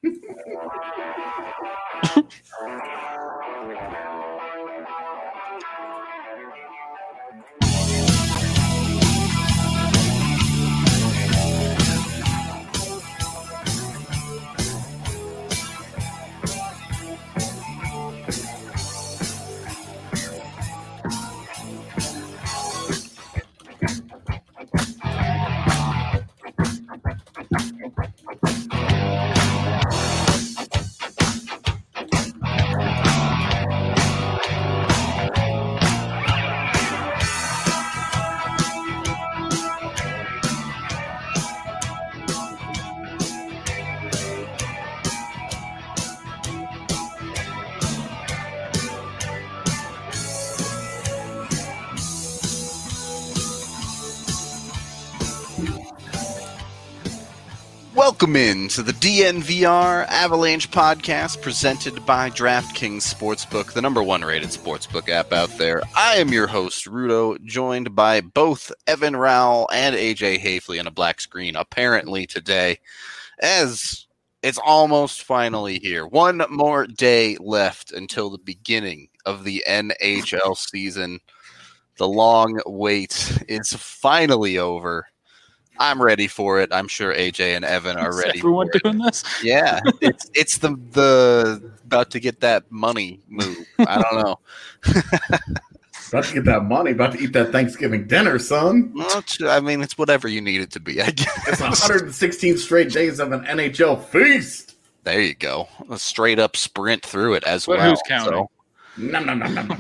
Welcome in to the DNVR Avalanche podcast presented by DraftKings Sportsbook, the number one rated sportsbook app out there. I am your host, Rudo, joined by both Evan Rowell and AJ Hafley on a black screen, apparently today, as it's almost finally here. One more day left until the beginning of the NHL season. The long wait is finally over. I'm ready for it. I'm sure AJ and Evan are ready. Everyone for doing it. this? Yeah, it's the about to get that money move. I don't know. About to get that money. About to eat that Thanksgiving dinner, son. Well, I mean, it's whatever you need it to be. I guess. It's 116 straight days of an NHL feast. There you go. A straight up sprint through it as But well. who's counting? So. Nom.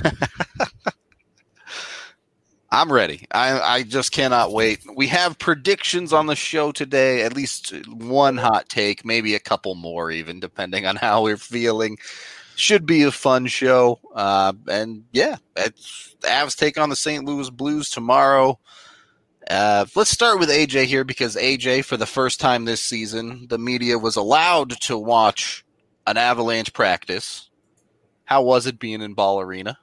I'm ready. I just cannot wait. We have predictions on the show today, at least one hot take, maybe a couple more even, depending on how we're feeling. Should be a fun show. And yeah, it's the Avs take on the St. Louis Blues tomorrow. Let's start with AJ here because AJ, for the first time this season, the media was allowed to watch an Avalanche practice. How was it being in Ball Arena?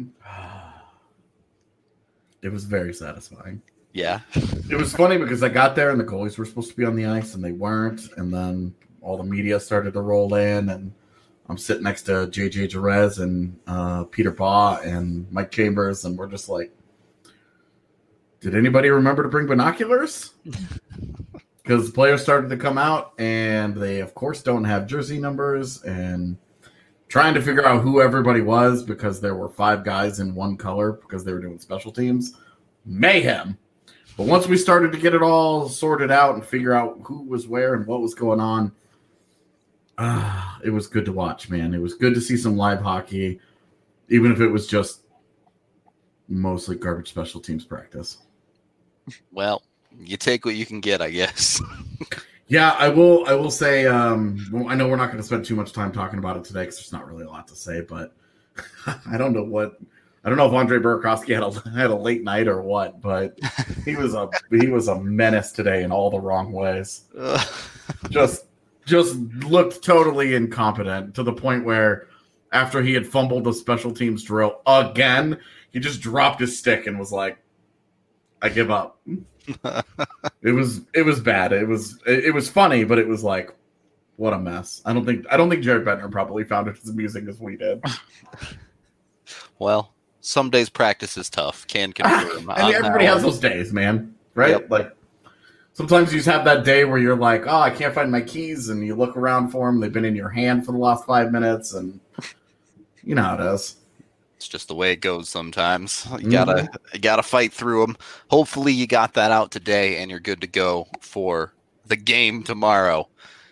It was very satisfying. Yeah. It was funny because I got there and the goalies were supposed to be on the ice and they weren't. And then all the media started to roll in and I'm sitting next to JJ Jerez and Peter Baugh and Mike Chambers. And we're just like, did anybody remember to bring binoculars? Because the players started to come out and they, of course, don't have jersey numbers and trying to figure out who everybody was because there were 5 guys in one color because they were doing special teams. Mayhem. But once we started to get it all sorted out and figure out who was where and what was going on, it was good to watch, man. It was good to see some live hockey, even if it was just mostly garbage special teams practice. Well, you take what you can get, I guess. Yeah, I will say, I know we're not going to spend too much time talking about it today because there's not really a lot to say, but I don't know if Andre Burakovsky had a late night or what, but he was a menace today in all the wrong ways. Just looked totally incompetent to the point where after he had fumbled the special teams drill again, he just dropped his stick and was like, I give up. It was bad. It was funny, but it was like, what a mess. I don't think Jared Bettner probably found it as amusing as we did. Well, some days practice is tough. Can confirm. I mean, everybody has those days, man. Right? Yep. Like sometimes you just have that day where you're like, oh, I can't find my keys, and you look around for them. They've been in your hand for the last 5 minutes, and you know how it is. It's just the way it goes sometimes. You gotta fight through them. Hopefully you got that out today and you're good to go for the game tomorrow.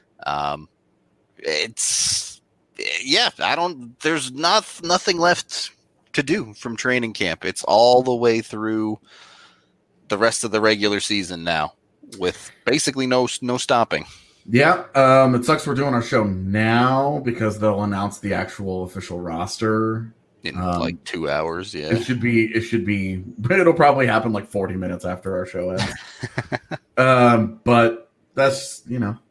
There's nothing left to do from training camp. It's all the way through the rest of the regular season now with basically no stopping. Yeah, it sucks we're doing our show now because they'll announce the actual official roster in like 2 hours. Yeah, it should be. It'll probably happen like 40 minutes after our show ends. But that's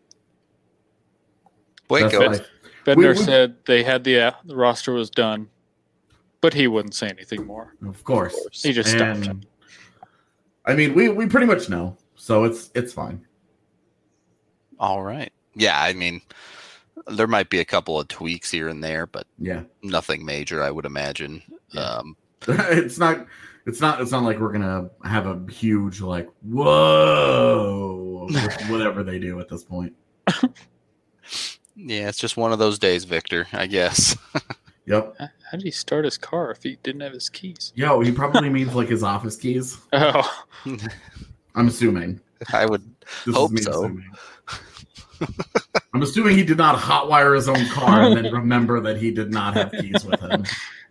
Boy, goes. Bender said they had the roster was done, but he wouldn't say anything more. Of course, he just stopped him. I mean, we pretty much know, so it's fine. All right. Yeah, I mean, There might be a couple of tweaks here and there, but Yeah. nothing major, I would imagine. Yeah. It's not like we're gonna have a huge like whoa whatever they do at this point. Yeah, it's just one of those days, Victor, I guess. Yep. How did he start his car if he didn't have his keys? Yo, he probably means like his office keys. Oh, I'm assuming. I would This hope is me so. assuming. I'm assuming he did not hotwire his own car and then remember that he did not have keys with him.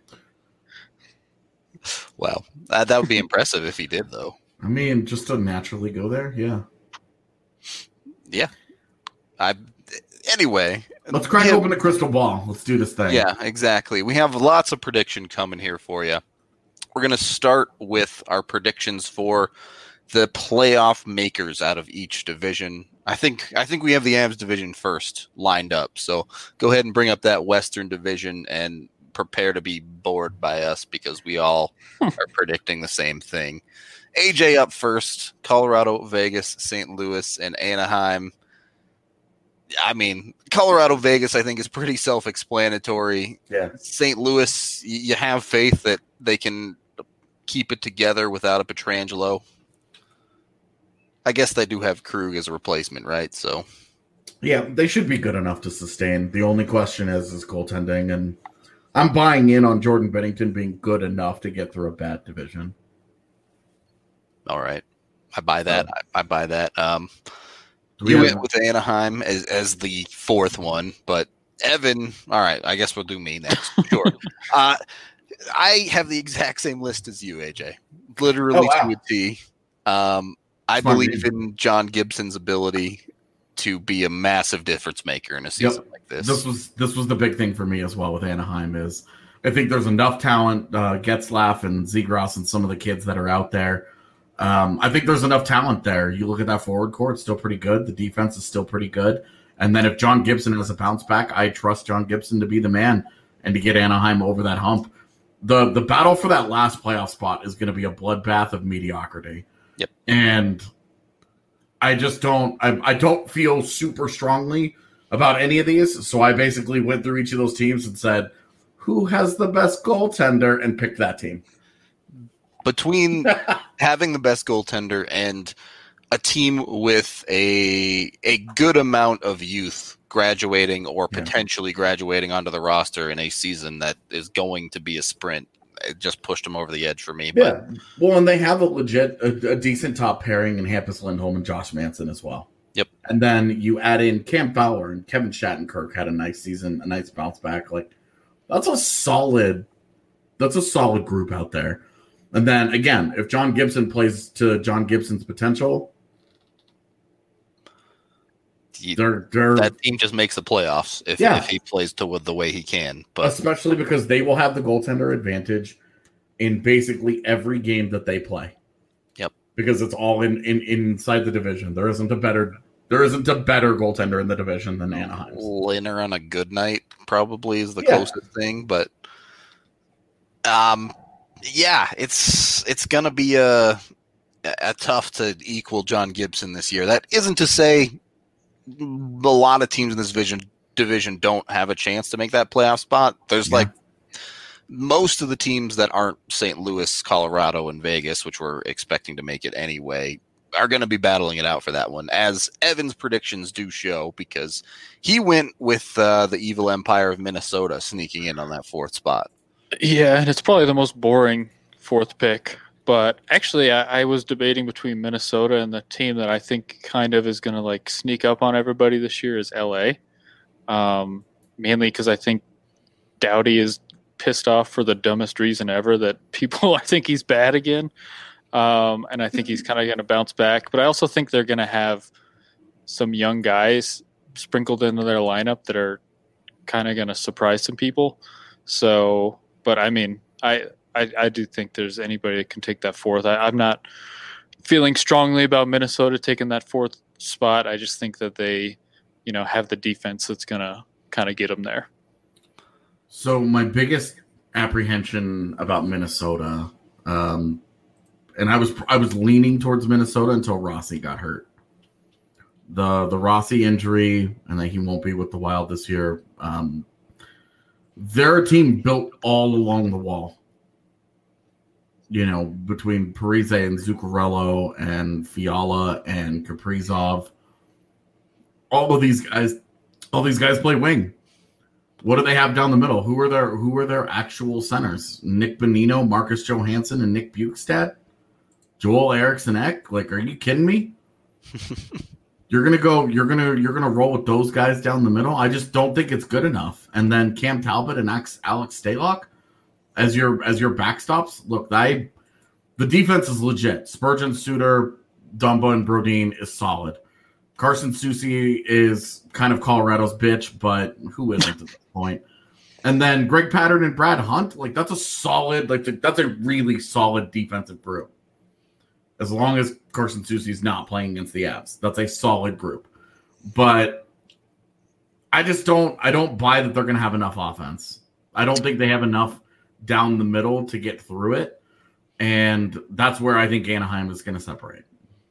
Well, that would be impressive if he did, though. I mean, just to naturally go there, yeah. Yeah. Anyway. Let's crack open the crystal ball. Let's do this thing. Yeah, exactly. We have lots of prediction coming here for you. We're going to start with our predictions for the playoff makers out of each division. I think we have the Avs division first lined up. So go ahead and bring up that Western division and prepare to be bored by us because we all are predicting the same thing. AJ up first, Colorado, Vegas, St. Louis, and Anaheim. I mean, Colorado, Vegas, I think is pretty self-explanatory. Yeah. St. Louis, you have faith that they can keep it together without a Pietrangelo. I guess they do have Krug as a replacement, right? So, yeah, they should be good enough to sustain. The only question is goaltending, and I'm buying in on Jordan Binnington being good enough to get through a bad division. All right, I buy that. I buy that. We You have- went with Anaheim as the fourth one, but Evan. All right, I guess we'll do me next. Sure. I have the exact same list as you, AJ. Literally to a T. I believe in John Gibson's ability to be a massive difference maker in a season like this. This was the big thing for me as well with Anaheim is I think there's enough talent, Getzlaff and Zegras and some of the kids that are out there. I think there's enough talent there. You look at that forward core, it's still pretty good. The defense is still pretty good. And then if John Gibson has a bounce back, I trust John Gibson to be the man and to get Anaheim over that hump. The battle for that last playoff spot is going to be a bloodbath of mediocrity. Yep. And I just I don't feel super strongly about any of these. So I basically went through each of those teams and said, who has the best goaltender, and picked that team. Between having the best goaltender and a team with a good amount of youth graduating or potentially graduating onto the roster in a season that is going to be a sprint, it just pushed them over the edge for me. Yeah. Well, and they have a decent top pairing in Hampus Lindholm and Josh Manson as well. Yep. And then you add in Cam Fowler and Kevin Shattenkirk had a nice season, a nice bounce back. Like that's a solid group out there. And then again, if John Gibson plays to John Gibson's potential, that team just makes the playoffs if he plays to the way he can. But especially because they will have the goaltender advantage in basically every game that they play. Yep. Because it's all inside the division. There isn't a better goaltender in the division than Anaheim. Lehner on a good night probably is the closest thing, but it's gonna be a tough to equal John Gibson this year. That isn't to say a lot of teams in this division don't have a chance to make that playoff spot. There's like most of the teams that aren't St. Louis, Colorado, and Vegas, which we're expecting to make it anyway, are going to be battling it out for that one, as Evan's predictions do show, because he went with the Evil Empire of Minnesota sneaking in on that fourth spot. Yeah, and it's probably the most boring fourth pick. But actually, I was debating between Minnesota and the team that I think kind of is going to like sneak up on everybody this year is LA. Mainly because I think Doughty is pissed off for the dumbest reason ever, that people I think he's bad again. And I think he's kind of going to bounce back. But I also think they're going to have some young guys sprinkled into their lineup that are kind of going to surprise some people. So, but I mean, I do think there's anybody that can take that fourth. I'm not feeling strongly about Minnesota taking that fourth spot. I just think that they, have the defense that's going to kind of get them there. So my biggest apprehension about Minnesota, and I was leaning towards Minnesota until Rossi got hurt. the Rossi injury, and that he won't be with the Wild this year. They're a team built all along the wall. Between Parise and Zuccarello and Fiala and Kaprizov, all these guys play wing. What do they have down the middle? Who are their actual centers? Nick Bonino, Marcus Johansson, and Nick Bukestad? Joel Eriksson-Ek? Like, are you kidding me? You're gonna roll with those guys down the middle? I just don't think it's good enough. And then Cam Talbot and Alex Stalock as your backstops. Look, the defense is legit. Spurgeon, Suter, Dumba, and Brodin is solid. Carson Soucy is kind of Colorado's bitch, but who isn't at this point? And then Greg Pattern and Brad Hunt, like that's a really solid defensive group. As long as Carson Soucy's not playing against the Avs, that's a solid group. But I don't buy that they're going to have enough offense. I don't think they have enough down the middle to get through it. And that's where I think Anaheim is going to separate.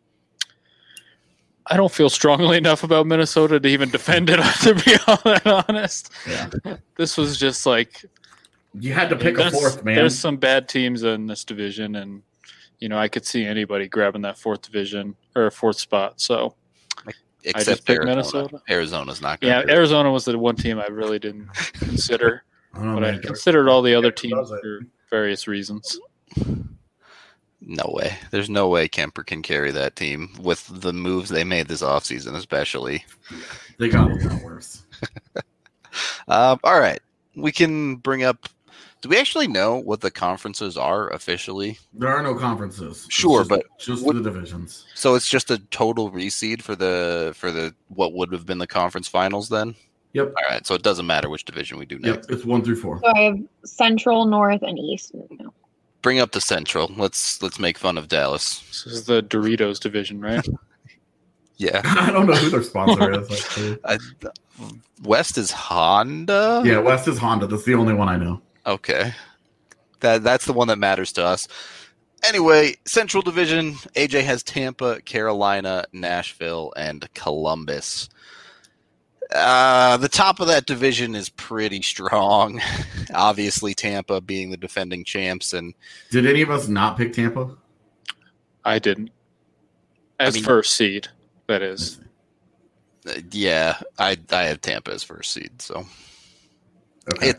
I don't feel strongly enough about Minnesota to even defend it, to be all that honest. Yeah. This was just like... You had to pick a fourth, man. There's some bad teams in this division, and I could see anybody grabbing that fourth spot. So except Minnesota. Arizona's not good. Yeah, Arizona was the one team I really didn't consider. I considered all the other teams for various reasons. No way. There's no way Kemper can carry that team with the moves they made this offseason, especially. They got a lot worse. All right. We can bring up... Do we actually know what the conferences are officially? There are no conferences. Sure, but the divisions. So it's just a total reseed for the what would have been the conference finals then? Yep. All right. So it doesn't matter which division we do next. Yep, it's 1 through 4. So I have Central, North, and East. No. Bring up the Central. Let's make fun of Dallas. This is the Doritos division, right? Yeah. I don't know who their sponsor is. West is Honda? Yeah, West is Honda. That's the only one I know. Okay. That's the one that matters to us. Anyway, Central Division, AJ has Tampa, Carolina, Nashville, and Columbus. The top of that division is pretty strong. Obviously, Tampa being the defending champs. And did any of us not pick Tampa? I didn't. First seed, that is. Yeah, I have Tampa as first seed. So okay.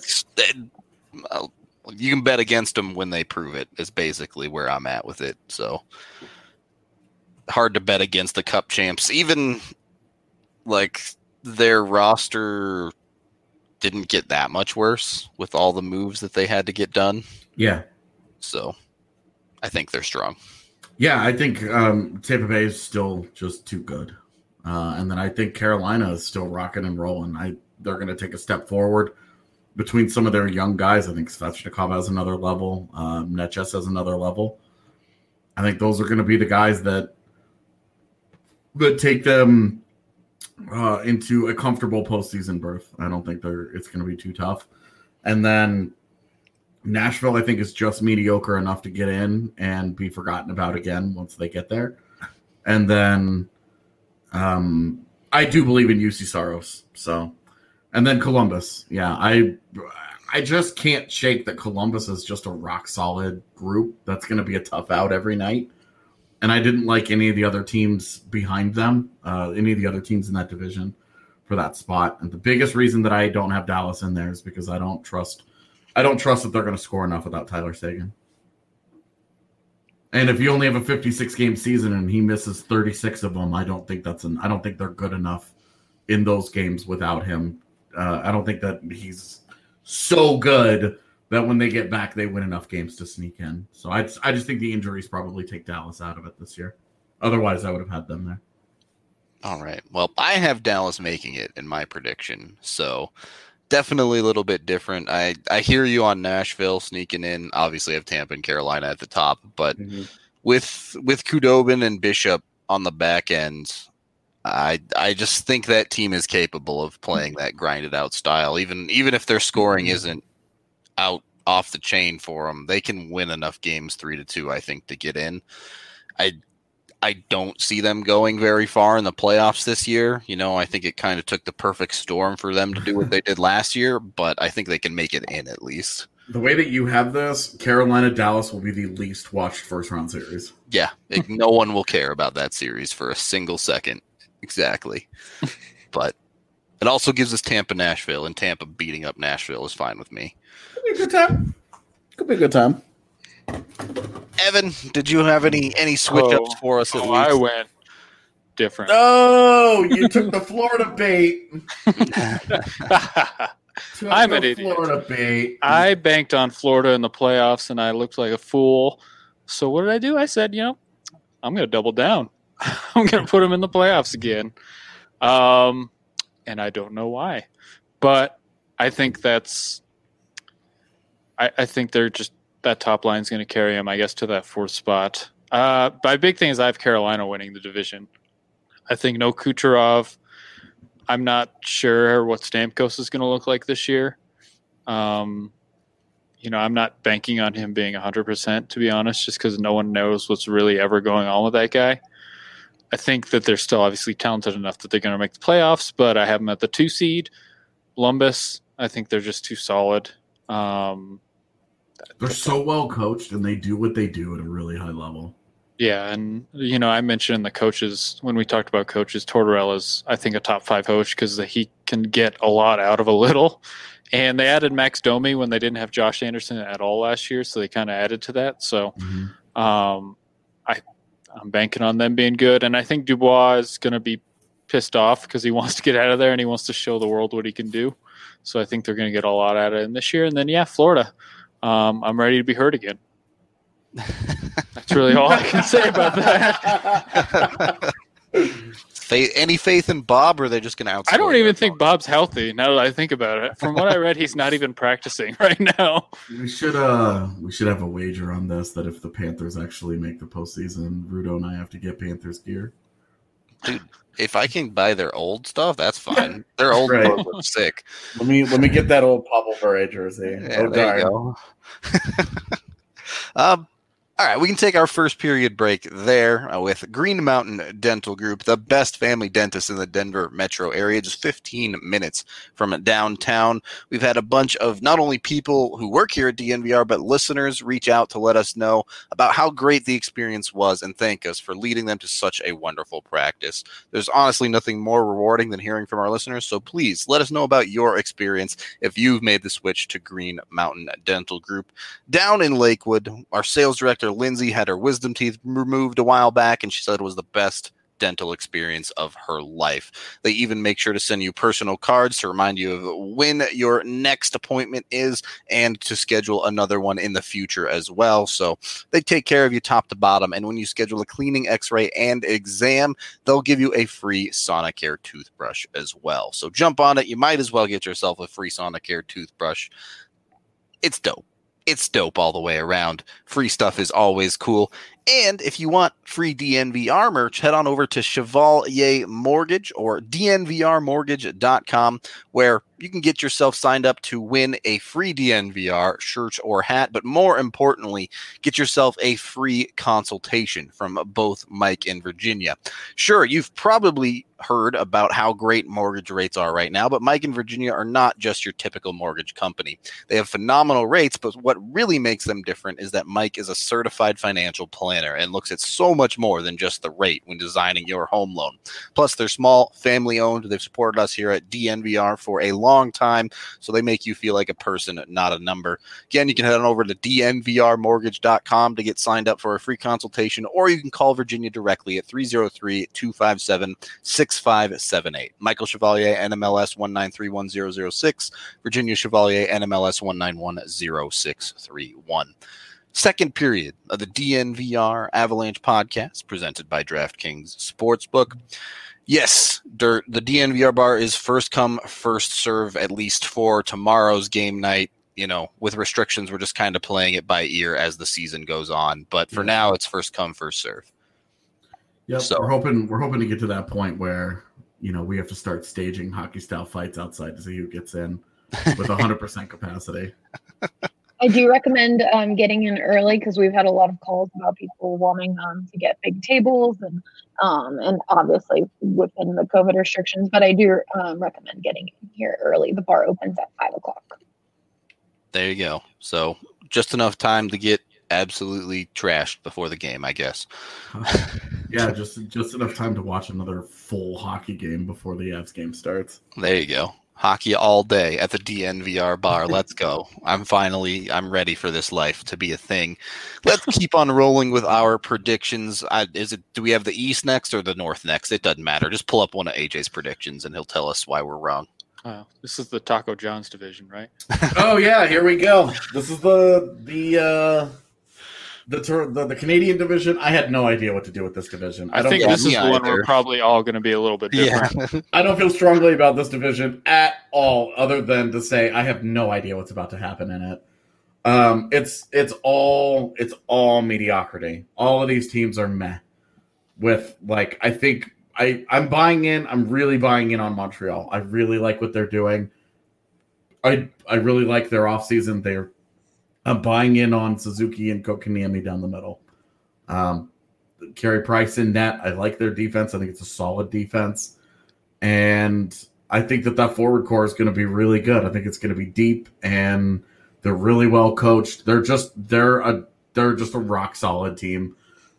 You can bet against them when they prove it. Is basically where I'm at with it. So hard to bet against the Cup champs, even like. Their roster didn't get that much worse with all the moves that they had to get done. Yeah. So I think they're strong. Yeah, I think Tampa Bay is still just too good. And then I think Carolina is still rocking and rolling. They're going to take a step forward between some of their young guys. I think Svechnikov has another level. Neches has another level. I think those are going to be the guys that take them into a comfortable postseason berth. I don't think it's going to be too tough. And then Nashville, I think, is just mediocre enough to get in and be forgotten about again once they get there. And then I do believe in UC Saros. So, and then Columbus. Yeah, I just can't shake that Columbus is just a rock solid group. That's going to be a tough out every night. And I didn't like any of the other teams behind them, any of the other teams in that division for that spot. And the biggest reason that I don't have Dallas in there is because I don't trust that they're going to score enough without Tyler Seguin. And if you only have a 56-game season and he misses 36 of them, I don't think they're good enough in those games without him. I don't think that he's so good that when they get back, they win enough games to sneak in. So I just think the injuries probably take Dallas out of it this year. Otherwise, I would have had them there. All right. Well, I have Dallas making it in my prediction. So definitely a little bit different. I hear you on Nashville sneaking in. Obviously, I have Tampa and Carolina at the top. But with Khudobin and Bishop on the back end, I just think that team is capable of playing that grinded out style. Even if their scoring isn't out off the chain for them, they can win enough games 3-2, I think, to get in. I don't see them going very far in the playoffs this year. I think it kind of took the perfect storm for them to do what they did last year, but I think they can make it in at least. The way that you have this, Carolina-Dallas will be the least watched first-round series. Yeah, no one will care about that series for a single second. Exactly. But it also gives us Tampa-Nashville, and Tampa beating up Nashville is fine with me. Could be a good time. Evan, did you have any switch-ups for us at least? I went different. Oh, you took the Florida bait. I'm an idiot. Florida bait. I banked on Florida in the playoffs, and I looked like a fool. So what did I do? I said, I'm going to double down. I'm going to put them in the playoffs again. And I don't know why. But I think I think they're just – that top line is going to carry them, I guess, to that fourth spot. My big thing is I have Carolina winning the division. I think no Kucherov. I'm not sure what Stamkos is going to look like this year. I'm not banking on him being 100%, to be honest, just because no one knows what's really ever going on with that guy. I think that they're still obviously talented enough that they're going to make the playoffs, but I have them at the 2 seed. Columbus, I think they're just too solid. They're so well coached, and they do what they do at a really high level. Yeah, and I mentioned the coaches when we talked about coaches. Tortorella's, I think, a top 5 coach because he can get a lot out of a little. And they added Max Domi when they didn't have Josh Anderson at all last year, so they kind of added to that. So I'm banking on them being good, and I think Dubois is going to be pissed off because he wants to get out of there and he wants to show the world what he can do. So I think they're going to get a lot out of it this year. And then Florida. I'm ready to be hurt again. That's really all I can say about that. Any faith in Bob, or are they just going to outscore? I don't even think Bob's healthy now that I think about it. From what I read, he's not even practicing right now. We should have a wager on this that if the Panthers actually make the postseason, Rudo and I have to get Panthers gear. Dude, if I can buy their old stuff, that's fine. Their old clothes look sick. Let me get that old Pavel Bure jersey. Yeah, there you go. All right, we can take our first period break there with Green Mountain Dental Group, the best family dentist in the Denver metro area, just 15 minutes from downtown. We've had a bunch of not only people who work here at DNVR, but listeners reach out to let us know about how great the experience was and thank us for leading them to such a wonderful practice. There's honestly nothing more rewarding than hearing from our listeners, so please let us know about your experience if you've made the switch to Green Mountain Dental Group. Down in Lakewood, our sales director, Lindsay, had her wisdom teeth removed a while back, and she said it was the best dental experience of her life. They even make sure to send you personal cards to remind you of when your next appointment is and to schedule another one in the future as well. So they take care of you top to bottom, and when you schedule a cleaning, x-ray, and exam, they'll give you a free Sonicare toothbrush as well. So jump on it. You might as well get yourself a free Sonicare toothbrush. It's dope. It's dope all the way around. Free stuff is always cool. And if you want free DNVR merch, head on over to Chevalier Mortgage or DNVRmortgage.com, where you can get yourself signed up to win a free DNVR shirt or hat, but more importantly, get yourself a free consultation from both Mike and Virginia. Sure, you've probably heard about how great mortgage rates are right now, but Mike and Virginia are not just your typical mortgage company. They have phenomenal rates, but what really makes them different is that Mike is a certified financial planner and looks at so much more than just the rate when designing your home loan. Plus, they're small, family-owned. They've supported us here at DNVR for a long time, so they make you feel like a person, not a number. Again, you can head on over to DNVRmortgage.com to get signed up for a free consultation, or you can call Virginia directly at 303-257-6578. Michael Chevalier, NMLS 1931006, Virginia Chevalier, NMLS 1910631. Second period of the DNVR Avalanche podcast presented by DraftKings Sportsbook. Yes, the DNVR bar is first come, first serve, at least for tomorrow's game night. You know, with restrictions, we're just kind of playing it by ear as the season goes on. But for now, it's first come, first serve. Yep, so we're hoping to get to that point where, you know, we have to start staging hockey style fights outside to see who gets in with 100% capacity. I do recommend getting in early because we've had a lot of calls about people wanting to get big tables and obviously within the COVID restrictions. But I do recommend getting in here early. The bar opens at 5:00. There you go. So just enough time to get absolutely trashed before the game, I guess. Yeah, just enough time to watch another full hockey game before the Avs game starts. There you go. Hockey all day at the DNVR bar. Let's go. I'm ready for this life to be a thing. Let's keep on rolling with our predictions. Do we have the East next or the North next? It doesn't matter. Just pull up one of AJ's predictions and he'll tell us why we're wrong. Oh, this is the Taco John's division, right? Oh yeah, here we go. This is the Canadian division. I had no idea what to do with this division. I think this is the one we're probably all going to be a little bit different. Yeah. I don't feel strongly about this division at all, other than to say I have no idea what's about to happen in it. It's all mediocrity. All of these teams are meh. With I think I'm buying in. I'm really buying in on Montreal. I really like what they're doing. I really like their offseason. I'm buying in on Suzuki and Kotkaniemi down the middle. Carey Price in net. I like their defense. I think it's a solid defense. And I think that forward core is going to be really good. I think it's going to be deep, and they're really well coached. They're just a rock solid team.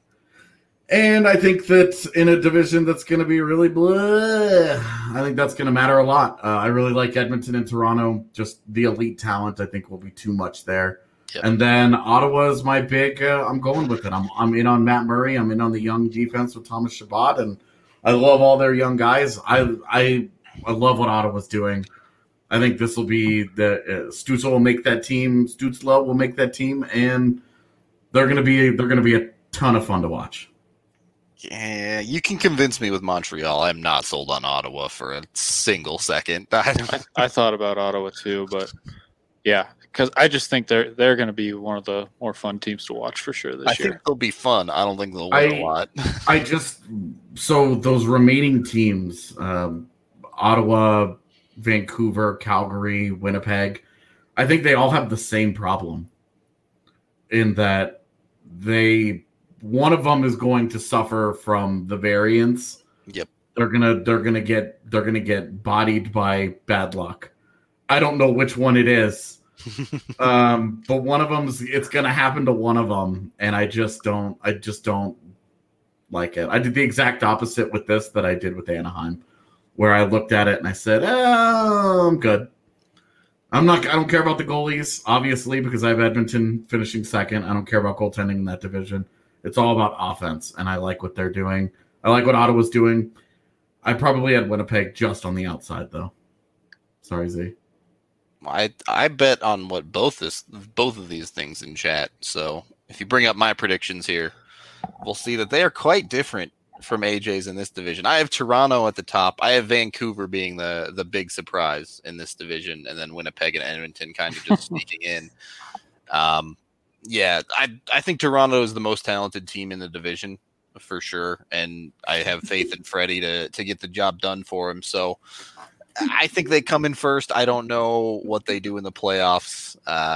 And I think that in a division that's going to be really blah, I think that's going to matter a lot. I really like Edmonton and Toronto. Just the elite talent, I think, will be too much there. Yep. And then Ottawa is my big. I'm going with it. I'm in on Matt Murray. I'm in on the young defense with Thomas Chabot, and I love all their young guys. I love what Ottawa's doing. I think this will be Stützle will make that team. Stützle will make that team, and they're going to be a ton of fun to watch. Yeah, you can convince me with Montreal. I'm not sold on Ottawa for a single second. I thought about Ottawa too, but yeah, because I just think they're going to be one of the more fun teams to watch for sure this year. I think they'll be fun. I don't think they'll win a lot. So those remaining teams, Ottawa, Vancouver, Calgary, Winnipeg, I think they all have the same problem in that one of them is going to suffer from the variance. Yep. They're gonna get bodied by bad luck. I don't know which one it is. But one of them it's gonna happen to one of them, and I just don't like it. I did the exact opposite with this that I did with Anaheim, where I looked at it and I said, I'm good. I don't care about the goalies, obviously, because I have Edmonton finishing second. I don't care about goaltending in that division. It's all about offense, and I like what they're doing. I like what Ottawa's doing. I probably had Winnipeg just on the outside, though. Sorry, Z. I bet on what both of these things in chat. So if you bring up my predictions here, we'll see that they are quite different from AJ's in this division. I have Toronto at the top. I have Vancouver being the big surprise in this division, and then Winnipeg and Edmonton kind of just sneaking in. Yeah, I think Toronto is the most talented team in the division for sure, and I have faith in Freddie to get the job done for him. So I think they come in first. I don't know what they do in the playoffs.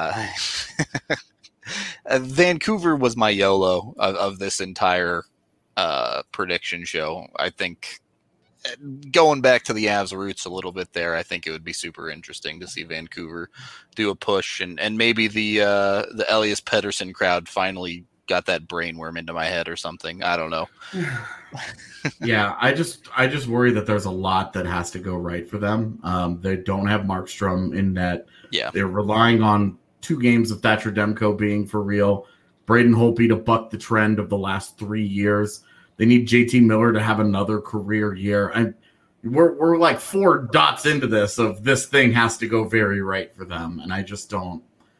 Vancouver was my YOLO of this entire prediction show. I think going back to the Avs roots a little bit there, I think it would be super interesting to see Vancouver do a push, and maybe the Elias Pettersson crowd finally got that brainworm into my head or something. I don't know. Yeah, I just worry that there's a lot that has to go right for them. They don't have Markstrom in net. Yeah, they're relying on 2 games of Thatcher Demko being for real. Braden Holtby to buck the trend of the last 3 years. They need JT Miller to have another career year. And we're like 4 dots into this of this thing has to go very right for them. And I just don't.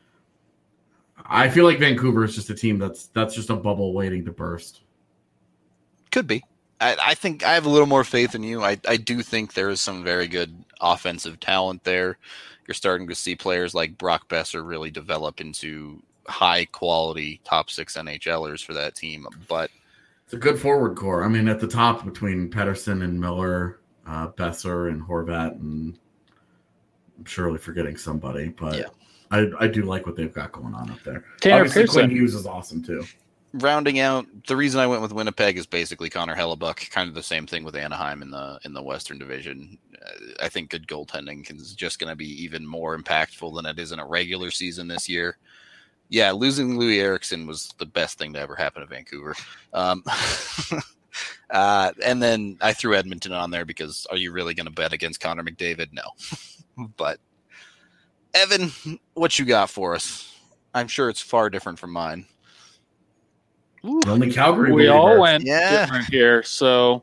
I feel like Vancouver is just a team that's just a bubble waiting to burst. Could be. I think I have a little more faith in you. I do think there is some very good offensive talent there. You're starting to see players like Brock Besser really develop into high quality top 6 NHLers for that team. But it's a good forward core. I mean, at the top between Pettersson and Miller, Besser and Horvat, and I'm surely forgetting somebody. But I do like what they've got going on up there. Tanner Obviously, Pearson. Quinn Hughes is awesome too. Rounding out, the reason I went with Winnipeg is basically Connor Hellebuck. Kind of the same thing with Anaheim in the Western Division. I think good goaltending is just going to be even more impactful than it is in a regular season this year. Yeah, losing Louis Eriksson was the best thing to ever happen to Vancouver. And then I threw Edmonton on there because are you really going to bet against Connor McDavid? No. But Evan, what you got for us? I'm sure it's far different from mine. Only Calgary. We all went Yeah. different here. So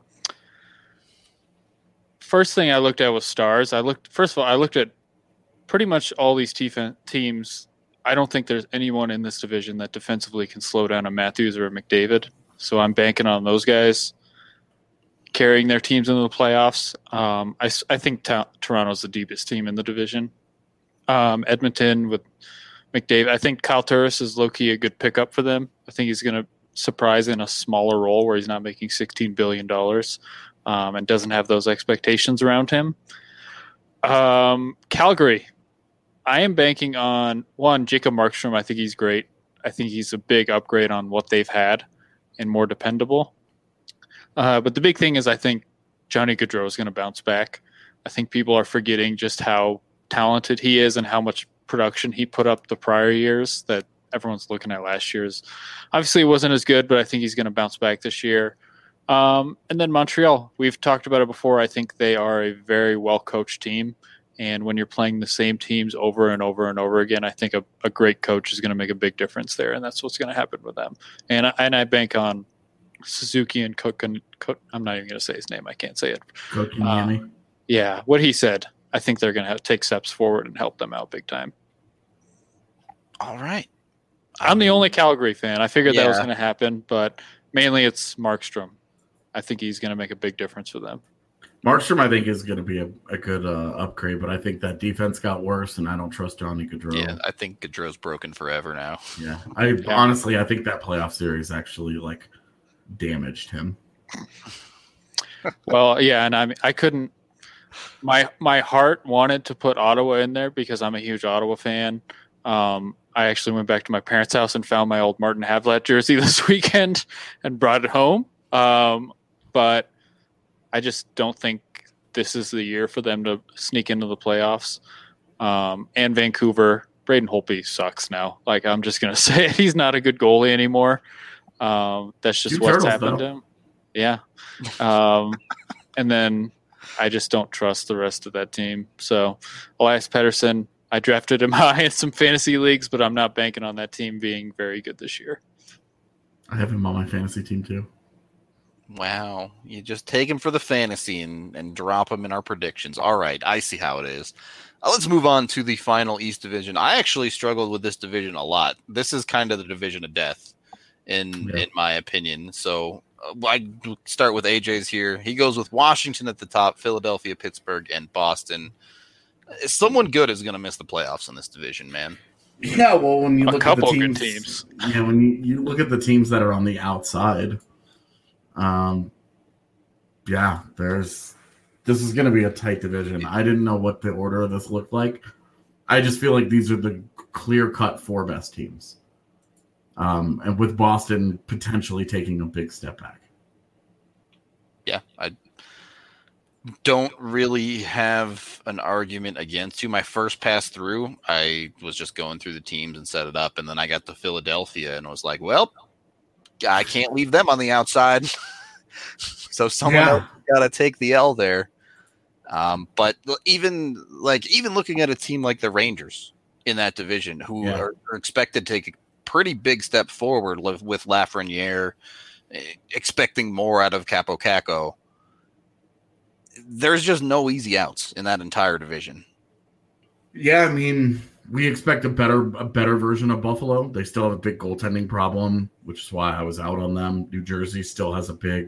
first thing I looked at was stars. I looked at pretty much all these teams. I don't think there's anyone in this division that defensively can slow down a Matthews or a McDavid. So I'm banking on those guys carrying their teams into the playoffs. I think Toronto's the deepest team in the division. Edmonton with McDavid. I think Kyle Turris is low-key a good pickup for them. I think he's going to surprise in a smaller role where he's not making $16 billion and doesn't have those expectations around him. Calgary. I am banking on, one, Jacob Markstrom. I think he's great. I think he's a big upgrade on what they've had and more dependable. But the big thing is I think Johnny Gaudreau is going to bounce back. I think people are forgetting just how talented he is and how much production he put up the prior years that everyone's looking at last year's. Obviously, it wasn't as good, but I think he's going to bounce back this year. And then Montreal. We've talked about it before. I think they are a very well-coached team. And when you're playing the same teams over and over and over again, I think a great coach is going to make a big difference there, and that's what's going to happen with them. And I bank on Suzuki and Cook. I'm not even going to say his name. I can't say it. Kotkaniemi. Yeah, what he said. I think they're going to take steps forward and help them out big time. All right. I'm the only Calgary fan. I figured that was Yeah. going to happen, but mainly it's Markstrom. I think he's going to make a big difference for them. Markstrom, I think, is going to be a good upgrade, but I think that defense got worse, and I don't trust Johnny Gaudreau. Yeah, I think Gaudreau's broken forever now. Yeah. Honestly, I think that playoff series actually damaged him. Well, yeah, and I couldn't. My heart wanted to put Ottawa in there because I'm a huge Ottawa fan. I actually went back to my parents' house and found my old Martin Havlat jersey this weekend and brought it home. But I just don't think this is the year for them to sneak into the playoffs. And Vancouver, Braden Holtby sucks now. I'm just going to say it. He's not a good goalie anymore. That's just what's happened to him. Yeah. And then I just don't trust the rest of that team. So Elias Pettersson, I drafted him high in some fantasy leagues, but I'm not banking on that team being very good this year. I have him on my fantasy team too. Wow. You just take him for the fantasy and drop him in our predictions. All right. I see how it is. Let's move on to the final East Division. I actually struggled with this division a lot. This is kind of the division of death in my opinion. So I start with AJ's here. He goes with Washington at the top, Philadelphia, Pittsburgh, and Boston. Someone good is going to miss the playoffs in this division, man. Yeah, well, when you look at the good teams. Yeah, when you look at the teams that are on the outside, this is going to be a tight division. I didn't know what the order of this looked like. I just feel like these are the clear-cut four best teams. And with Boston potentially taking a big step back. Yeah, I don't really have an argument against you. My first pass through, I was just going through the teams and set it up, and then I got to Philadelphia and was like, well, I can't leave them on the outside. So someone else got to take the L there. But even looking at a team like the Rangers in that division, who are expected to take a pretty big step forward with Lafreniere, expecting more out of Capo Caco, there's just no easy outs in that entire division. Yeah, I mean, we expect a better version of Buffalo. They still have a big goaltending problem, which is why I was out on them. New Jersey still has a big.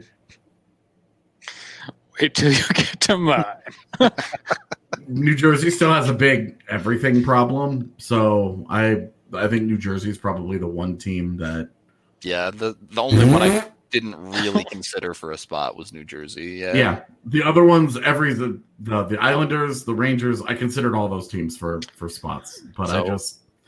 Wait till you get to mine. New Jersey still has a big everything problem. So I think New Jersey is probably the one team that. Yeah, the only one I didn't really consider for a spot was New Jersey. Yeah. The other ones, the Islanders, the Rangers, I considered all those teams for spots, but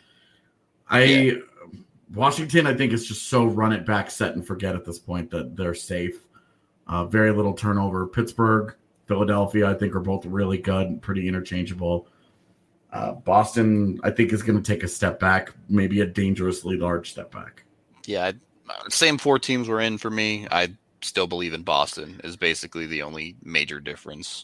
Washington, I think, is just so run it back, set and forget at this point that they're safe. Very little turnover. Pittsburgh, Philadelphia, I think, are both really good, pretty interchangeable. Boston, I think, is going to take a step back, maybe a dangerously large step back. Yeah, same 4 teams were in for me. I still believe in Boston is basically the only major difference.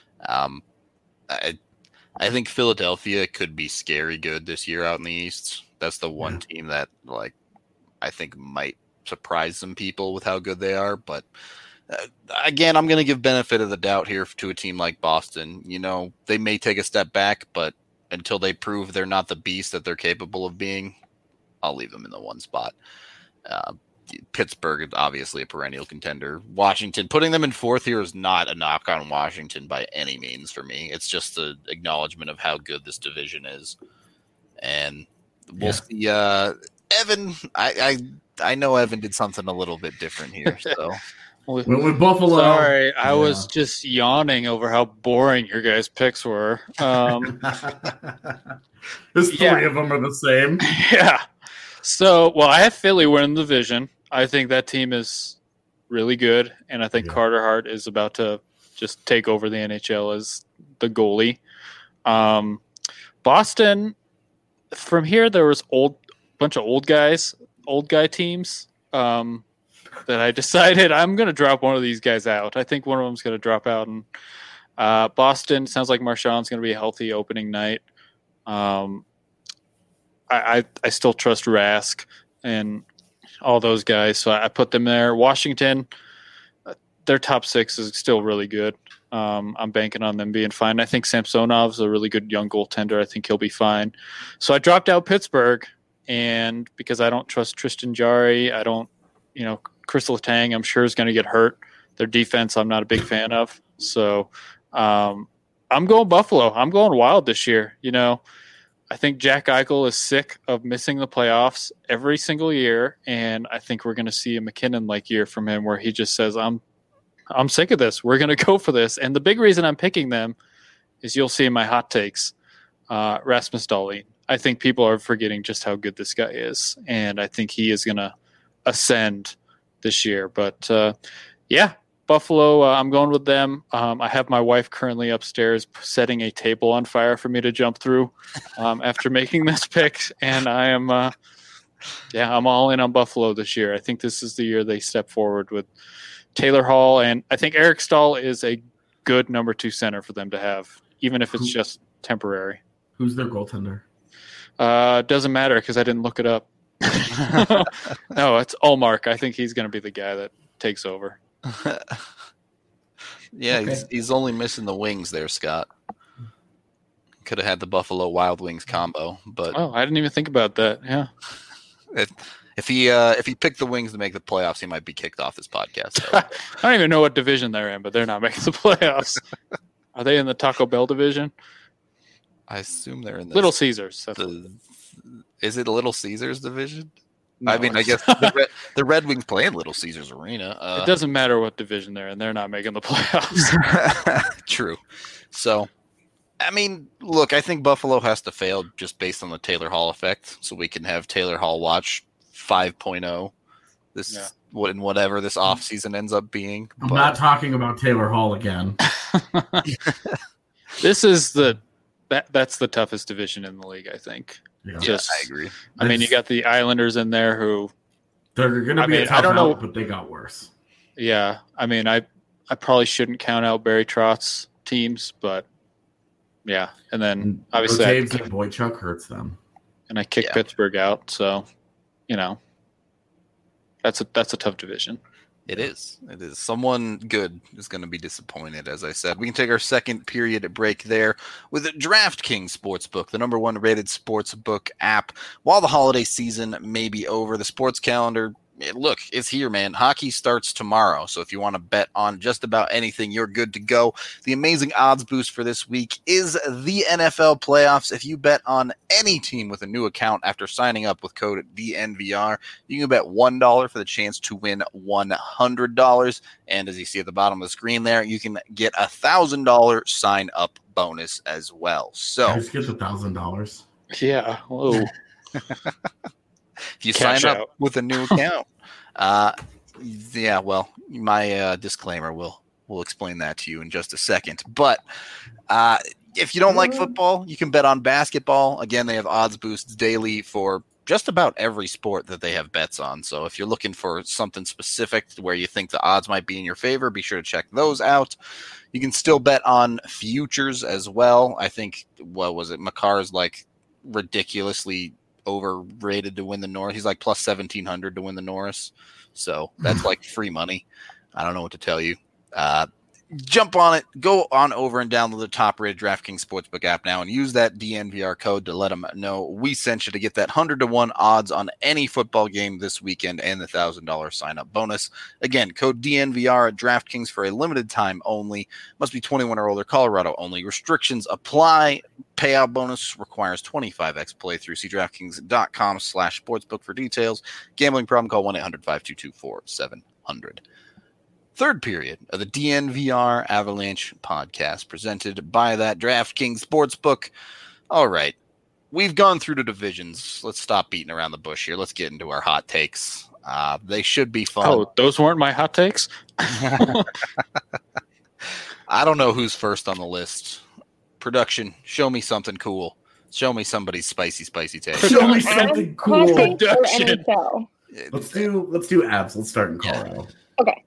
I think Philadelphia could be scary good this year out in the East. That's the one team that, like, I think might surprise some people with how good they are. But again, I'm going to give benefit of the doubt here to a team like Boston. You know, they may take a step back, but until they prove they're not the beast that they're capable of being, I'll leave them in the 1 spot. Pittsburgh is obviously a perennial contender. Washington, putting them in 4th here is not a knock on Washington by any means for me. It's just an acknowledgement of how good this division is. And we'll see. Evan, I know Evan did something a little bit different here. So with Buffalo. Sorry, I was just yawning over how boring your guys' picks were. There's 3 of them are the same. Yeah. So, I have Philly winning the division. I think that team is really good, and I think Carter Hart is about to just take over the NHL as the goalie. Boston, from here, there was bunch of old guy teams that I decided I'm going to drop one of these guys out. I think one of them's going to drop out. And Boston, sounds like Marchand's going to be a healthy opening night. I still trust Rask and all those guys, so I put them there. Washington, their top 6 is still really good. I'm banking on them being fine. I think Samsonov's a really good young goaltender. I think he'll be fine. So I dropped out Pittsburgh, and because I don't trust Tristan Jarry, I don't, Chris Letang, I'm sure is going to get hurt. Their defense, I'm not a big fan of. So I'm going Buffalo. I'm going Wild this year. I think Jack Eichel is sick of missing the playoffs every single year, and I think we're going to see a McKinnon-like year from him where he just says, I'm sick of this. We're going to go for this. And the big reason I'm picking them is you'll see in my hot takes, Rasmus Dahlin. I think people are forgetting just how good this guy is, and I think he is going to ascend this year. But, Buffalo, I'm going with them. I have my wife currently upstairs setting a table on fire for me to jump through after making this pick, and I am, I'm all in on Buffalo this year. I think this is the year they step forward with Taylor Hall, and I think Eric Stahl is a good number 2 center for them to have, even if it's just temporary. Who's their goaltender? Doesn't matter because I didn't look it up. No, it's Ullmark. I think he's going to be the guy that takes over. He's only missing the wings there, Scott. Could have had the Buffalo Wild Wings combo, but I didn't even think about that. Yeah, if he picked the Wings to make the playoffs, he might be kicked off this podcast. So. I don't even know what division they're in, but they're not making the playoffs. Are they in the Taco Bell division? I assume they're in the Little Caesars. Is it Little Caesars division? No, I mean, I guess the Red Wings play in Little Caesars Arena. It doesn't matter what division they're in; they're not making the playoffs. True. So, I mean, look, I think Buffalo has to fail just based on the Taylor Hall effect, so we can have Taylor Hall watch 5.0 whatever this offseason ends up being. I'm not talking about Taylor Hall again. This is that's the toughest division in the league, I think. Yeah. I agree. I mean, you got the Islanders in there who they're going to be a tough out, but they got worse. Yeah, I mean, I probably shouldn't count out Barry Trotz's teams, but yeah, and then obviously Boychuk hurts them, and I kicked Pittsburgh out, so that's a tough division. It is. Someone good is going to be disappointed, as I said. We can take our second period break there with DraftKings Sportsbook, the number 1 rated sportsbook app. While the holiday season may be over, the sports calendar, look, it's here, man. Hockey starts tomorrow, so if you want to bet on just about anything, you're good to go. The amazing odds boost for this week is the NFL playoffs. If you bet on any team with a new account after signing up with code DNVR, you can bet $1 for the chance to win $100. And as you see at the bottom of the screen there, you can get $1,000 sign-up bonus as well. So just get the $1,000. Yeah. Whoa. If you Cash sign up out. with a new account, yeah, well, my disclaimer will explain that to you in just a second. But if you don't like football, you can bet on basketball. Again, they have odds boosts daily for just about every sport that they have bets on. So if you're looking for something specific where you think the odds might be in your favor, be sure to check those out. You can still bet on futures as well. I think, what was it? Makar's like ridiculously overrated to win the Norris. He's like plus 1,700 to win the Norris. So that's like free money. I don't know what to tell you. Jump on it. Go on over and download the top-rated DraftKings Sportsbook app now and use that DNVR code to let them know we sent you to get that 100-to-1 odds on any football game this weekend and the $1,000 sign-up bonus. Again, code DNVR at DraftKings for a limited time only. Must be 21 or older, Colorado only. Restrictions apply. Payout bonus requires 25x playthrough. See DraftKings.com/sportsbook for details. Gambling problem, call 1-800-522-4700. Third period of the DNVR Avalanche podcast presented by that DraftKings Sportsbook. All right, we've gone through the divisions. Let's stop beating around the bush here. Let's get into our hot takes. They should be fun. Oh, those weren't my hot takes? I don't know who's first on the list. Production, show me something cool. Show me somebody's spicy take. Show me something cool. Classic or Production. NHL? Let's do abs. Let's start in Colorado. Okay.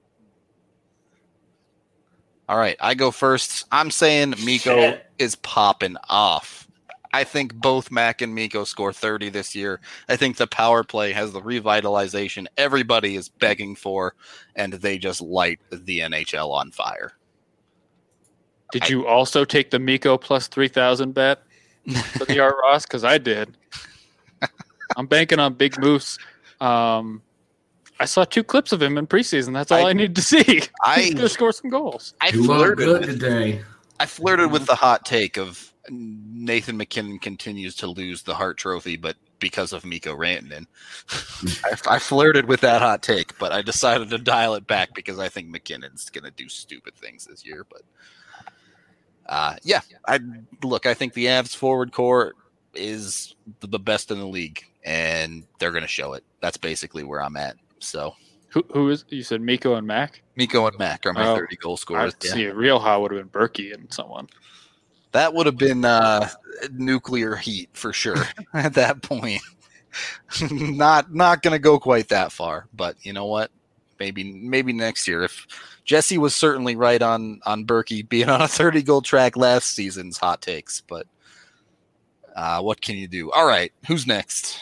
All right, I go first. I'm saying Mikko is popping off. I think both Mac and Mikko score 30 this year. I think the power play has the revitalization everybody is begging for, and they just light the NHL on fire. Did you also take the Mikko plus 3,000 bet for the Art Ross? Because I did. I'm banking on Big Moose. I saw 2 clips of him in preseason. That's all I need to see. He's going to score some goals. You look good today. I flirted with the hot take of Nathan McKinnon continues to lose the Hart Trophy, but because of Mikko Rantanen. I flirted with that hot take, but I decided to dial it back because I think McKinnon's going to do stupid things this year. But I think the Avs forward core is the best in the league, and they're going to show it. That's basically where I'm at. So who is, you said Mikko and Mac? Mikko and Mac are my 30 goal scorers. See, real high would have been Berkey and someone. That would have been nuclear heat for sure at that point. Not going to go quite that far, but you know what? Maybe next year. If Jesse was certainly right on Berkey being on a 30-goal track last season's hot takes, but what can you do? All right, who's next?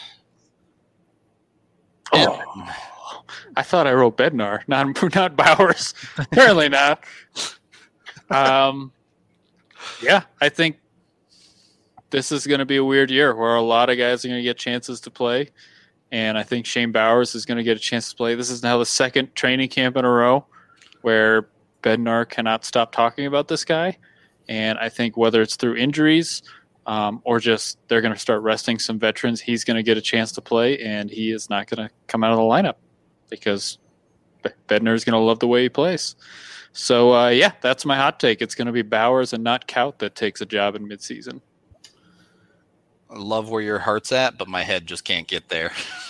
Oh, I thought I wrote Bednar, not Bowers. Apparently not. Yeah, I think this is going to be a weird year where a lot of guys are going to get chances to play, and I think Shane Bowers is going to get a chance to play. This is now the second training camp in a row where Bednar cannot stop talking about this guy, and I think whether it's through injuries or just they're going to start resting some veterans, he's going to get a chance to play, and he is not going to come out of the lineup because Bednar is going to love the way he plays. So, that's my hot take. It's going to be Bowers and not Kaut that takes a job in midseason. I love where your heart's at, but my head just can't get there.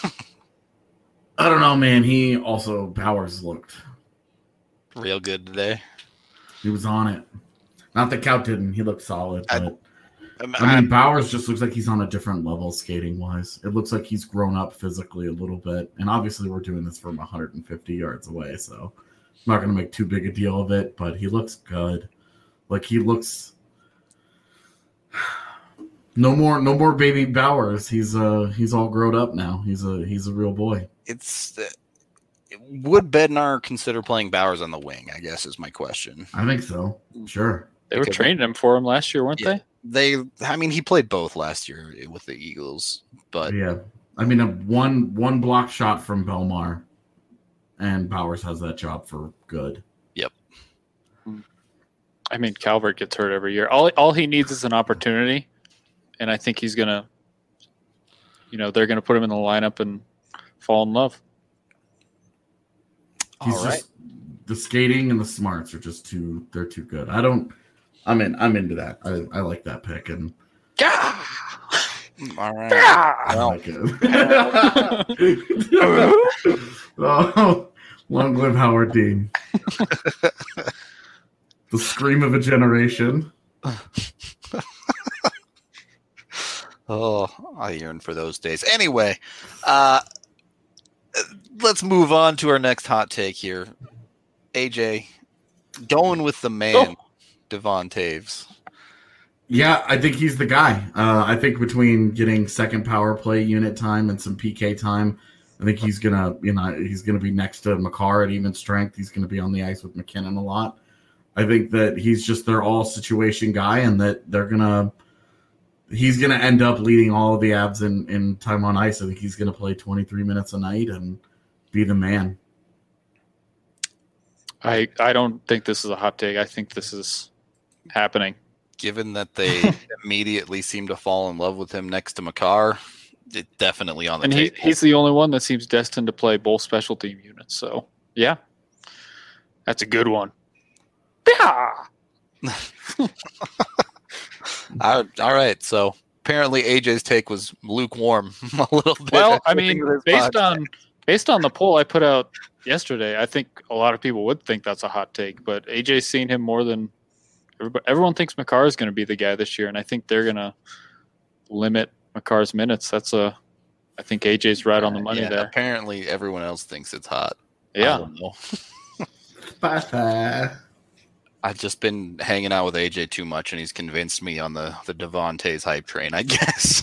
I don't know, man. Bowers looked real good today. He was on it. Not that Kaut didn't. He looked solid. But I mean, Bowers just looks like he's on a different level skating-wise. It looks like he's grown up physically a little bit. And obviously we're doing this from 150 yards away, so I'm not going to make too big a deal of it, but he looks good. Like he looks no more baby Bowers. He's all grown up now. He's a real boy. Would Bednar consider playing Bowers on the wing, I guess is my question. I think so. Sure. They were training him for him last year, weren't they? He played both last year with the Eagles, but yeah, I mean, one block shot from Belmar, and Bowers has that job for good. Yep. I mean, Calvert gets hurt every year. All he needs is an opportunity, and I think he's gonna, they're gonna put him in the lineup and fall in love. The skating and the smarts are just they're too good. I'm into that. I like that pick. And All right. I Well, like it. Oh, long live Howard Dean. The scream of a generation. oh, I yearn for those days. Anyway, let's move on to our next hot take here. AJ, going with the man, Devon Taves. Yeah, I think he's the guy. I think between getting second power play unit time and some PK time, I think he's gonna be next to Makar at even strength. He's gonna be on the ice with McKinnon a lot. I think that he's just their all situation guy, and that he's gonna end up leading all of the Avs in time on ice. I think he's gonna play 23 minutes a night and be the man. I don't think this is a hot take. I think this is happening. Given that they immediately seem to fall in love with him next to Makar, it's definitely on the table. And he's the only one that seems destined to play both special team units. So, yeah, that's a good one. Yeah. All right. So apparently AJ's take was lukewarm a little bit. Well, I mean, based on the poll I put out yesterday, I think a lot of people would think that's a hot take. But AJ's seen him more than everyone thinks Makar is going to be the guy this year, and I think they're going to limit Makar's minutes. I think AJ's right on the money there. Apparently, everyone else thinks it's hot. Yeah. I don't know. Bye. I've just been hanging out with AJ too much, and he's convinced me on the Devon Taves hype train, I guess.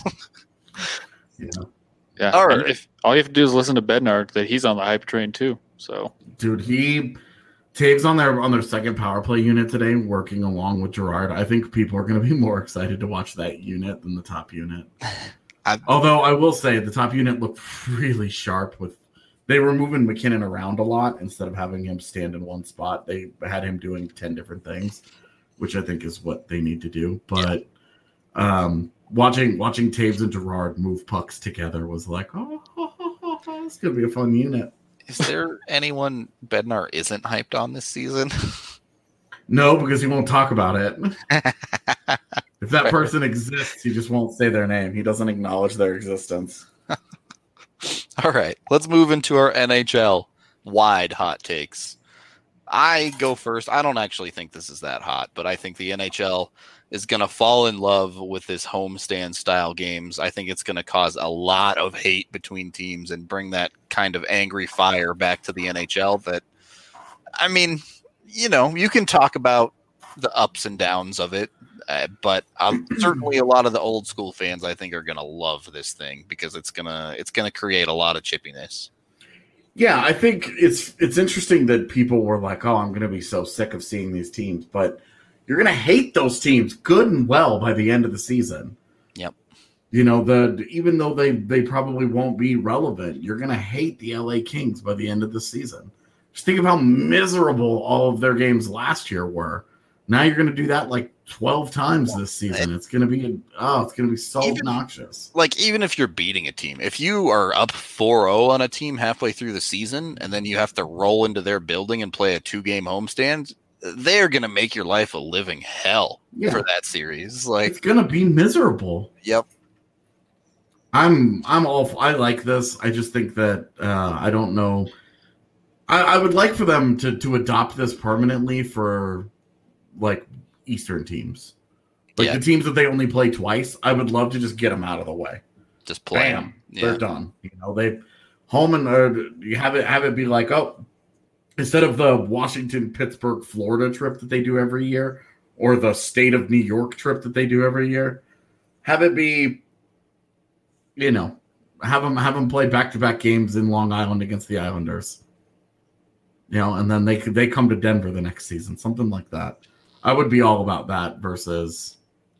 Yeah. All right. If all you have to do is listen to Bednar, that he's on the hype train too. So, dude, Taves on their second power play unit today, working along with Gerard. I think people are going to be more excited to watch that unit than the top unit. Although I will say the top unit looked really sharp. They were moving McKinnon around a lot instead of having him stand in one spot. They had him doing 10 different things, which I think is what they need to do. But watching Taves and Gerard move pucks together was like, it's going to be a fun unit. Is there anyone Bednar isn't hyped on this season? No, because he won't talk about it. If that person exists, he just won't say their name. He doesn't acknowledge their existence. All right, let's move into our NHL wide hot takes. I go first. I don't actually think this is that hot, but I think the NHL is going to fall in love with this homestand style games. I think it's going to cause a lot of hate between teams and bring that kind of angry fire back to the NHL that, I mean, you can talk about the ups and downs of it, but certainly a lot of the old school fans, I think, are going to love this thing because it's going to create a lot of chippiness. Yeah, I think it's interesting that people were like, "Oh, I'm going to be so sick of seeing these teams," but you're going to hate those teams good and well by the end of the season. Yep. Even though they probably won't be relevant, you're going to hate the LA Kings by the end of the season. Just think of how miserable all of their games last year were. Now you're going to do that like 12 times this season. It's going to be so obnoxious. Like, even if you're beating a team, if you are up 4-0 on a team halfway through the season and then you have to roll into their building and play a 2-game homestand, they're going to make your life a living hell for that series. Like, it's going to be miserable. Yep. I like this. I just think that I don't know. I would like for them to adopt this permanently for like Eastern teams, like the teams that they only play twice. I would love to just get them out of the way. Just play them. They're done. They home and you have it be like, oh, instead of the Washington, Pittsburgh, Florida trip that they do every year, or the state of New York trip that they do every year, have it be, have them play back-to-back games in Long Island against the Islanders. And then they come to Denver the next season, something like that. I would be all about that versus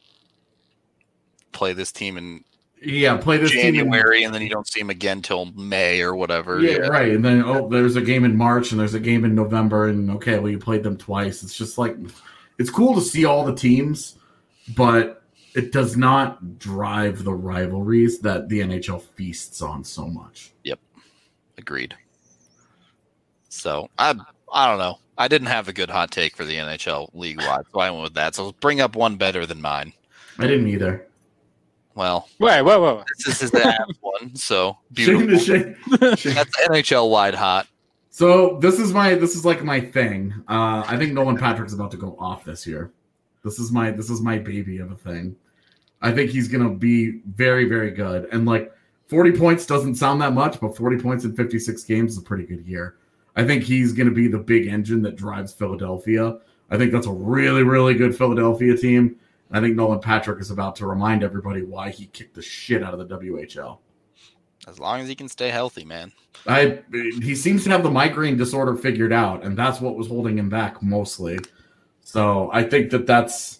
play this team in play this January team and then you don't see them again till May or whatever. Yeah, right. And then there's a game in March and there's a game in November, and you played them twice. It's just like, it's cool to see all the teams, but it does not drive the rivalries that the NHL feasts on so much. Yep, agreed. So I don't know. I didn't have a good hot take for the NHL league-wide, so I went with that. So let's bring up one better than mine. I didn't either. Well, Wait. this is his Avs one, so Shane beautiful. to Shane. That's NHL wide hot. So this is like my thing. I think Nolan Patrick's about to go off this year. This is my baby of a thing. I think he's gonna be very, very good. And like 40 points doesn't sound that much, but 40 points in 56 games is a pretty good year. I think he's gonna be the big engine that drives Philadelphia. I think that's a really, really good Philadelphia team. And I think Nolan Patrick is about to remind everybody why he kicked the shit out of the WHL. As long as he can stay healthy, man. He seems to have the migraine disorder figured out, and that's what was holding him back mostly. So I think that's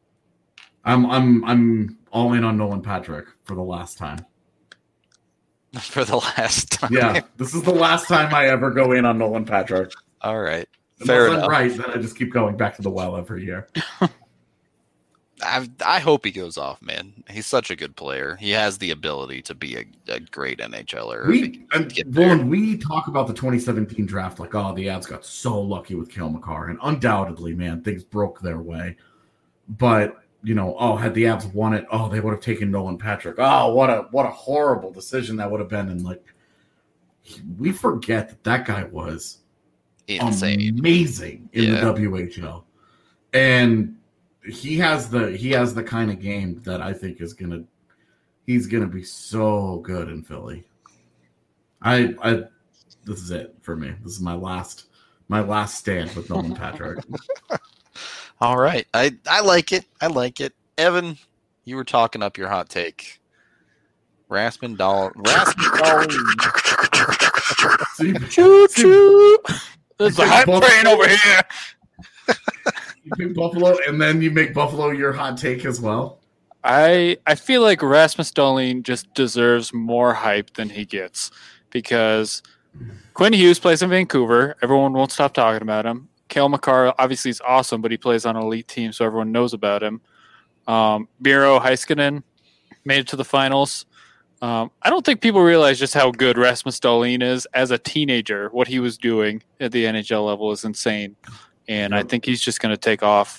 I'm all in on Nolan Patrick for the last time. For the last time. Yeah, this is the last time I ever go in on Nolan Patrick. All right. Fair enough. Right, then I just keep going back to the well every year. I hope he goes off, man. He's such a good player. He has the ability to be a great NHLer. When we talk about the 2017 draft, like, oh, the Avs got so lucky with Cale Makar, and undoubtedly, man, things broke their way. But had the Avs won it, they would have taken Nolan Patrick. Oh, what a horrible decision that would have been. And like, we forget that guy was insane, amazing in the WHL, and he has the kind of game that I think he's gonna be so good in Philly. This is it for me. This is my last stand with Nolan Patrick. All right. I like it. Evan, you were talking up your hot take. Rasmus Dahlin. Choo choo. There's a hype train over here. You pick Buffalo, and then you make Buffalo your hot take as well. I feel like Rasmus Dahlin just deserves more hype than he gets because Quinn Hughes plays in Vancouver. Everyone won't stop talking about him. Cale Makar obviously is awesome, but he plays on an elite team, so everyone knows about him. Miro Heiskanen made it to the finals. I don't think people realize just how good Rasmus Dahlin is as a teenager. What he was doing at the NHL level is insane. And I think he's just going to take off.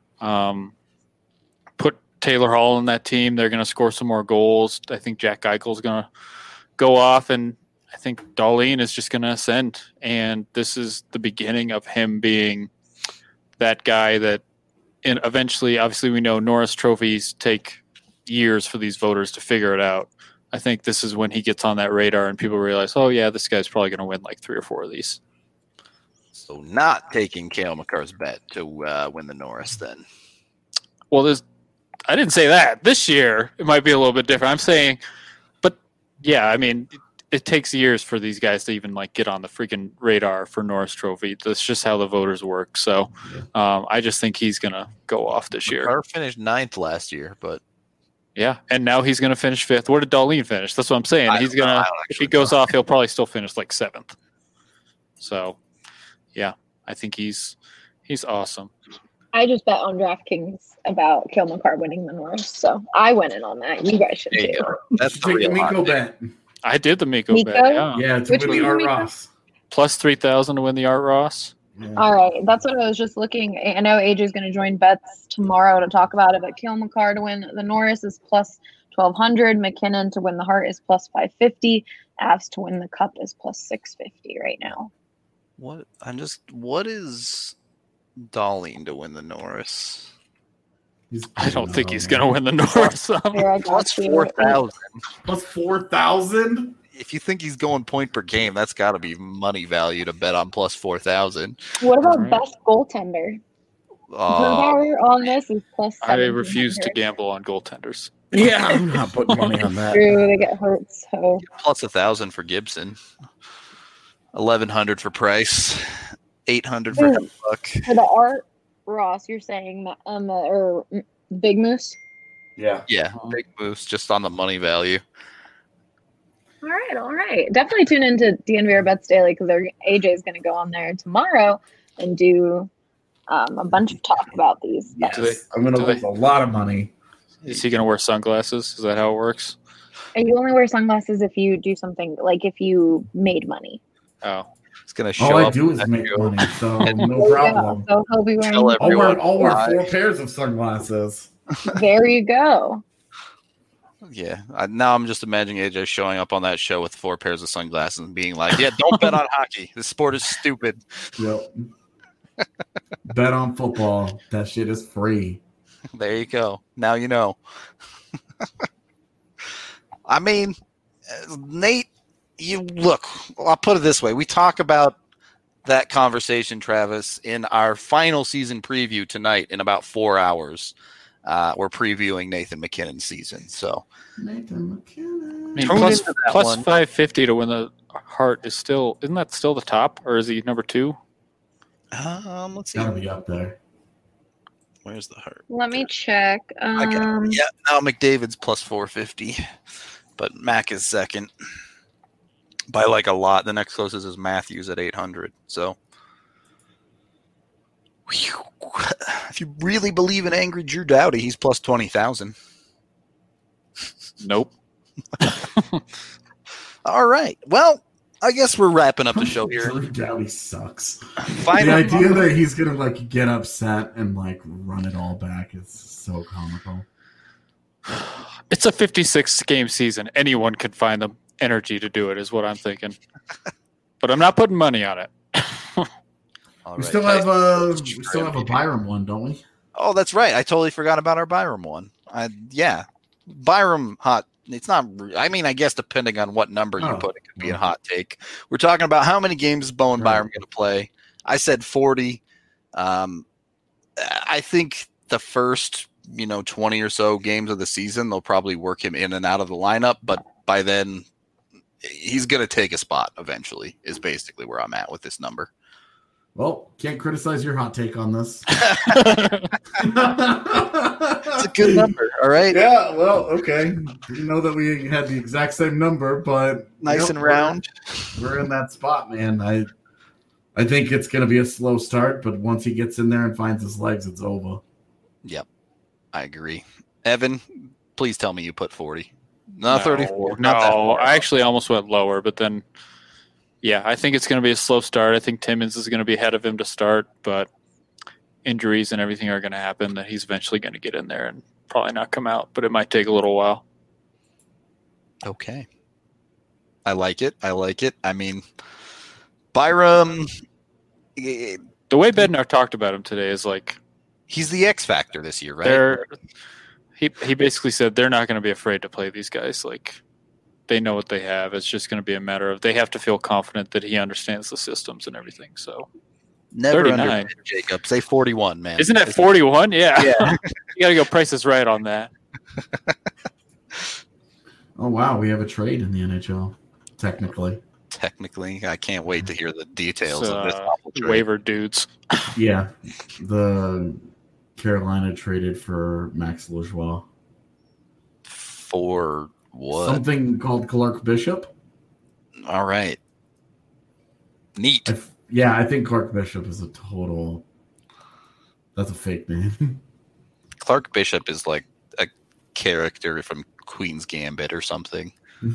Put Taylor Hall in that team. They're going to score some more goals. I think Jack Eichel's going to go off, and I think Dahlin is just going to ascend. And this is the beginning of him being that guy that eventually, obviously we know Norris trophies take years for these voters to figure it out. I think this is when he gets on that radar and people realize, oh, yeah, this guy's probably going to win like 3 or 4 of these. So not taking Cale Makar's bet to win the Norris then. Well, I didn't say that. This year, it might be a little bit different. I'm saying, but yeah, I mean, it takes years for these guys to even like get on the freaking radar for Norris Trophy. That's just how the voters work. So I just think he's going to go off this year. Makar finished 9th last year, but. Yeah, and now he's going to finish 5th. Where did Dahlin finish? That's what I'm saying. He's going to, if he goes off, he'll probably still finish like 7th. So, yeah, I think he's awesome. I just bet on DraftKings about Cale Makar winning the Norris, so I went in on that. You guys should too. That's the real Miko bet. I did the Miko bet. Yeah, to win the Art Ross. Plus 3,000 to win the Art Ross. Yeah. All right, that's what I was just looking. I know AJ's going to join bets tomorrow to talk about it, but Cale Makar to win the Norris is plus 1,200. McKinnon to win the Hart is plus 550. Avs to win the Cup is plus 650 right now. What is Dahlin to win the Norris? I don't think he's going to win the Norris. Plus 4,000. Plus 4,000? If you think he's going point per game, that's got to be money value to bet on plus 4,000. What about best goaltender? Power on this is plus 700. I refuse to gamble on goaltenders. Yeah, I'm not putting money on that. True, they get hurt. So plus 1,000 for Gibson, 1,100 for Price, 800 for Buck. For the Art Ross, you're saying or Big Moose? Yeah, Big Moose, just on the money value. All right. Definitely tune into DNVR Bets Daily because AJ is going to go on there tomorrow and do a bunch of talk about these. Yes. I'm going to lose a lot of money. Is he going to wear sunglasses? Is that how it works? And you only wear sunglasses if you do something, like if you made money. Oh. It's going to show All up. I do is make money, so no problem. So he'll be wearing. I'll wear 4 pairs of sunglasses. There you go. Yeah. Now I'm just imagining AJ showing up on that show with 4 pairs of sunglasses and being like, "Yeah, don't bet on hockey. This sport is stupid." Yep. Bet on football. That shit is free. There you go. Now you know. I mean, Nate, you look. I'll put it this way: we talk about that conversation, Travis, in our final season preview tonight in about 4 hours. We're previewing Nathan MacKinnon's season. So Nathan MacKinnon. I mean, Tune plus, into that plus one. 550 to win the Hart is still, isn't that still the top, or is he number 2? let's see. Gotta be up there. Where's the Hart? Let me check. I got it. Yeah, now McDavid's plus 450, but Mac is second by like a lot. The next closest is Matthews at 800. So, if you really believe in angry Drew Doughty, he's plus 20,000. Nope. All right. Well, I guess we're wrapping up the show here. Drew Doughty sucks. Final The idea that he's gonna like get upset and like run it all back is so comical. It's a 56-game season. Anyone can find the energy to do it, is what I'm thinking. But I'm not putting money on it. All We right. still have a Byram one, don't we? Oh, that's right. I totally forgot about our Byram one. Yeah, Byram hot. It's not. I mean, I guess depending on what number you put, it could be a hot take. We're talking about how many games is Bo and Byram going to play. I said 40. I think the first 20 or so games of the season, they'll probably work him in and out of the lineup. But by then, he's going to take a spot eventually. Is basically where I'm at with this number. Well, can't criticize your hot take on this. It's a good number, all right? Yeah, well, okay. Didn't know that we had the exact same number, but Nice and round. We're in that spot, man. I think it's going to be a slow start, but once he gets in there and finds his legs, it's over. Yep, I agree. Evan, please tell me you put 40. No, 34. No, Not that far. I actually almost went lower, but then, yeah, I think it's going to be a slow start. I think Timmins is going to be ahead of him to start, but injuries and everything are going to happen that he's eventually going to get in there and probably not come out, but it might take a little while. Okay. I like it. I mean, Byram, The way Bednar talked about him today is like he's the X factor this year, right? He basically said they're not going to be afraid to play these guys. Like, they know what they have. It's just going to be a matter of they have to feel confident that he understands the systems and everything. So Never 39. underrated Jacob. Say 41, man. Isn't that 41? Yeah. Yeah. You got to go Price is Right on that. Oh, wow. We have a trade in the NHL, technically. Technically, I can't wait to hear the details of this awful trade. Waiver dudes. Yeah. The Carolina traded for Max Lajoie. For what? Something called Clark Bishop. All right. Neat. I think Clark Bishop is that's a fake name. Clark Bishop is like a character from Queen's Gambit or something.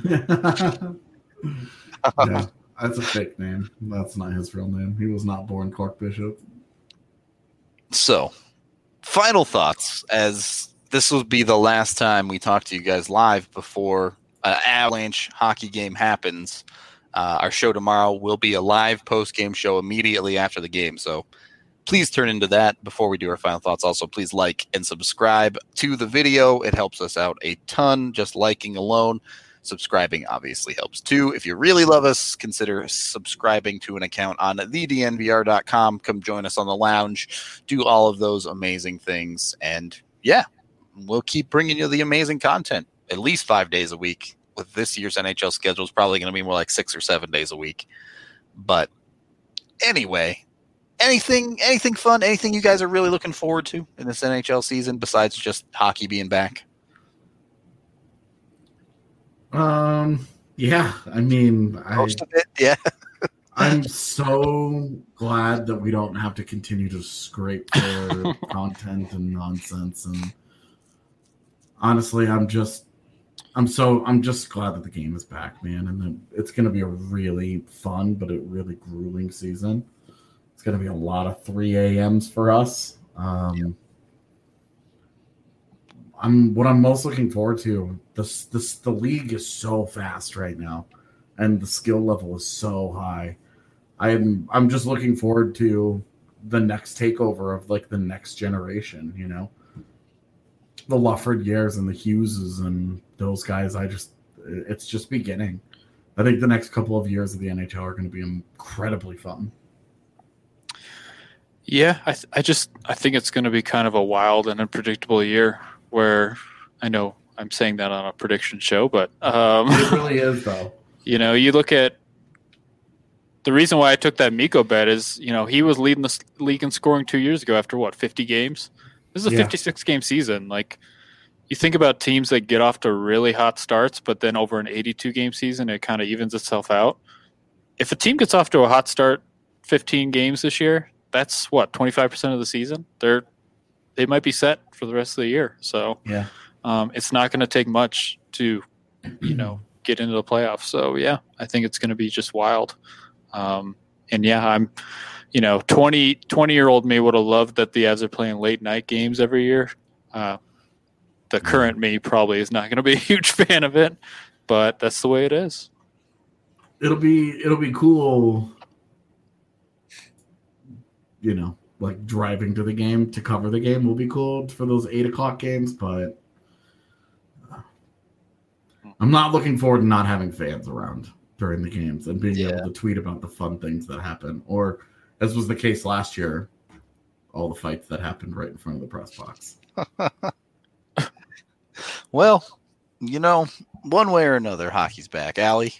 Yeah, that's a fake name. That's not his real name. He was not born Clark Bishop. So, final thoughts, as this will be the last time we talk to you guys live before an Avalanche hockey game happens. Our show tomorrow will be a live post-game show immediately after the game, so please turn into that before we do our final thoughts. Also, please like and subscribe to the video. It helps us out a ton, just liking alone. Subscribing obviously helps too. If you really love us, consider subscribing to an account on thednvr.com. Come join us on the lounge. Do all of those amazing things. And yeah, we'll keep bringing you the amazing content at least 5 days a week. With this year's NHL schedule, is probably going to be more like 6 or 7 days a week. But anyway, anything fun? Anything you guys are really looking forward to in this NHL season besides just hockey being back? Yeah, I mean, Most of it, yeah. I'm so glad that we don't have to continue to scrape for content and nonsense. And honestly, I'm just glad that the game is back, man. And that it's going to be a really fun, but a really grueling season. It's going to be a lot of 3 a.m.s for us. what I'm most looking forward to. The league is so fast right now, and the skill level is so high. I'm just looking forward to the next takeover of like the next generation. You know, the Lufford years and the Hugheses and those guys. It's just beginning. I think the next couple of years of the NHL are going to be incredibly fun. Yeah, I think it's going to be kind of a wild and unpredictable year. Where I know I'm saying that on a prediction show, but it really is though. You know, you look at the reason why I took that Mikko bet is, you know, he was leading the league in scoring 2 years ago after 50 games. This is a 56 game season. Like, you think about teams that get off to really hot starts, but then over an 82 game season, it kind of evens itself out. If a team gets off to a hot start 15 games this year, that's 25% of the season. They might be set for the rest of the year. So yeah, it's not going to take much to, you know, get into the playoffs. So yeah, I think it's going to be just wild. And yeah, I'm, you know, 20-year-old me would have loved that the Avs are playing late night games every year. The current me probably is not going to be a huge fan of it, but that's the way it is. It'll be cool, you know, like driving to the game to cover the game will be cool for those 8 o'clock games, but I'm not looking forward to not having fans around during the games and being able to tweet about the fun things that happen. Or, as was the case last year, all the fights that happened right in front of the press box. Well, you know, one way or another, hockey's back. Allie?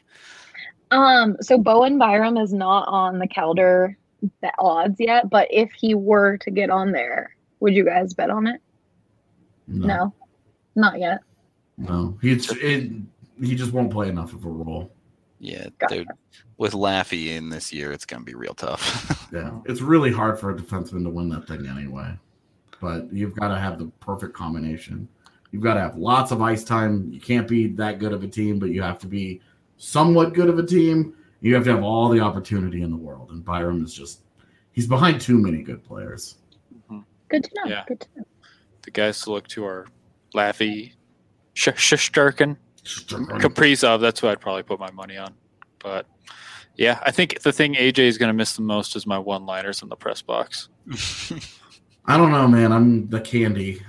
So Bowen Byram is not on the Calder odds yet, but if he were to get on there, would you guys bet on it? No, not yet. No, he just won't play enough of a role. Yeah, gotcha. With Laffy in this year, it's going to be real tough. Yeah, it's really hard for a defenseman to win that thing anyway. But you've got to have the perfect combination. You've got to have lots of ice time. You can't be that good of a team, but you have to be somewhat good of a team. You have to have all the opportunity in the world. And Byram is he's behind too many good players. Good to know. Yeah. Good to know. The guys to look to are Laffy, Shesterkin, Kaprizov. That's what I'd probably put my money on. But yeah, I think the thing AJ is going to miss the most is my one-liners in the press box. I don't know, man. I'm the candy.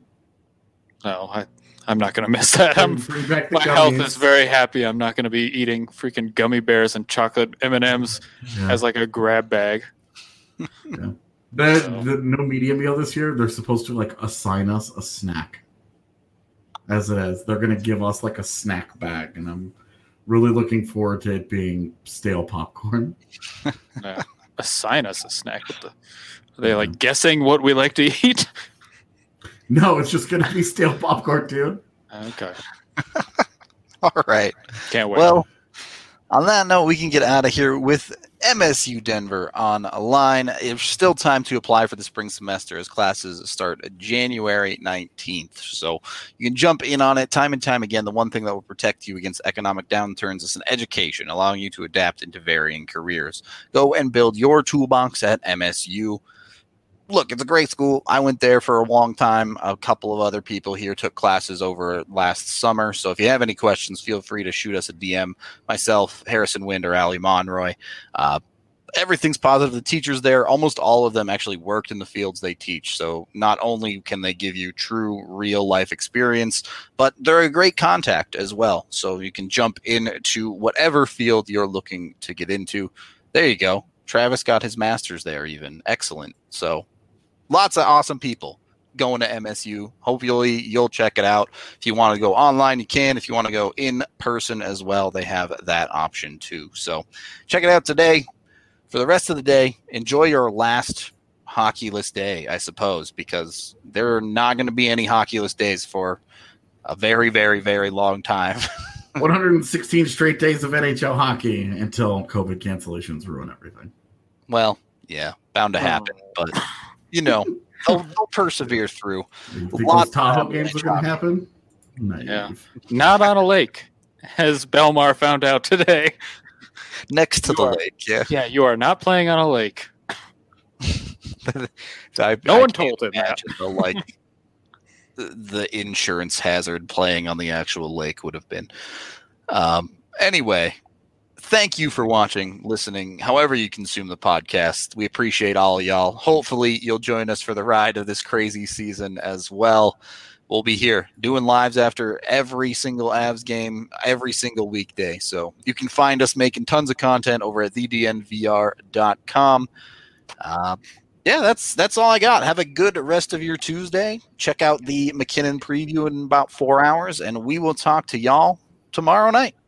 No, I'm not going to miss that. My health is very happy. I'm not going to be eating freaking gummy bears and chocolate M&Ms as like a grab bag. Yeah. The no media meal this year, they're supposed to like assign us a snack. As it is, they're going to give us like a snack bag, and I'm really looking forward to it being stale popcorn. Yeah. Assign us a snack. Are they like guessing what we like to eat? No, it's just going to be stale popcorn, dude. Okay. All right. Can't wait. Well, on that note, we can get out of here with MSU Denver on a line. It's still time to apply for the spring semester as classes start January 19th. So you can jump in on it time and time again. The one thing that will protect you against economic downturns is an education, allowing you to adapt into varying careers. Go and build your toolbox at MSU. Look, it's a great school. I went there for a long time. A couple of other people here took classes over last summer. So if you have any questions, feel free to shoot us a DM. Myself, Harrison Wind, or Ali Monroy. Everything's positive. The teachers there, almost all of them actually worked in the fields they teach. So not only can they give you true real life experience, but they're a great contact as well. So you can jump into whatever field you're looking to get into. There you go. Travis got his master's there even. Excellent. So lots of awesome people going to MSU. Hopefully you'll check it out. If you want to go online, you can. If you want to go in person as well, they have that option too. So check it out today. For the rest of the day, enjoy your last hockeyless day, I suppose, because there are not going to be any hockeyless days for a very, very, very long time. 116 straight days of NHL hockey until COVID cancellations ruin everything. Well, yeah, bound to happen, but you know, they'll persevere through. You think those Tahoe games are going to happen? Yeah, not on a lake, as Belmar found out today. Next to the lake, yeah. Yeah, you are not playing on a lake. No one told him that. The, the insurance hazard playing on the actual lake would have been. Anyway, thank you for watching, listening, however you consume the podcast. We appreciate all of y'all. Hopefully you'll join us for the ride of this crazy season as well. We'll be here doing lives after every single Avs game, every single weekday. So you can find us making tons of content over at thednvr.com. Yeah, that's all I got. Have a good rest of your Tuesday. Check out the McKinnon preview in about 4 hours, and we will talk to y'all tomorrow night.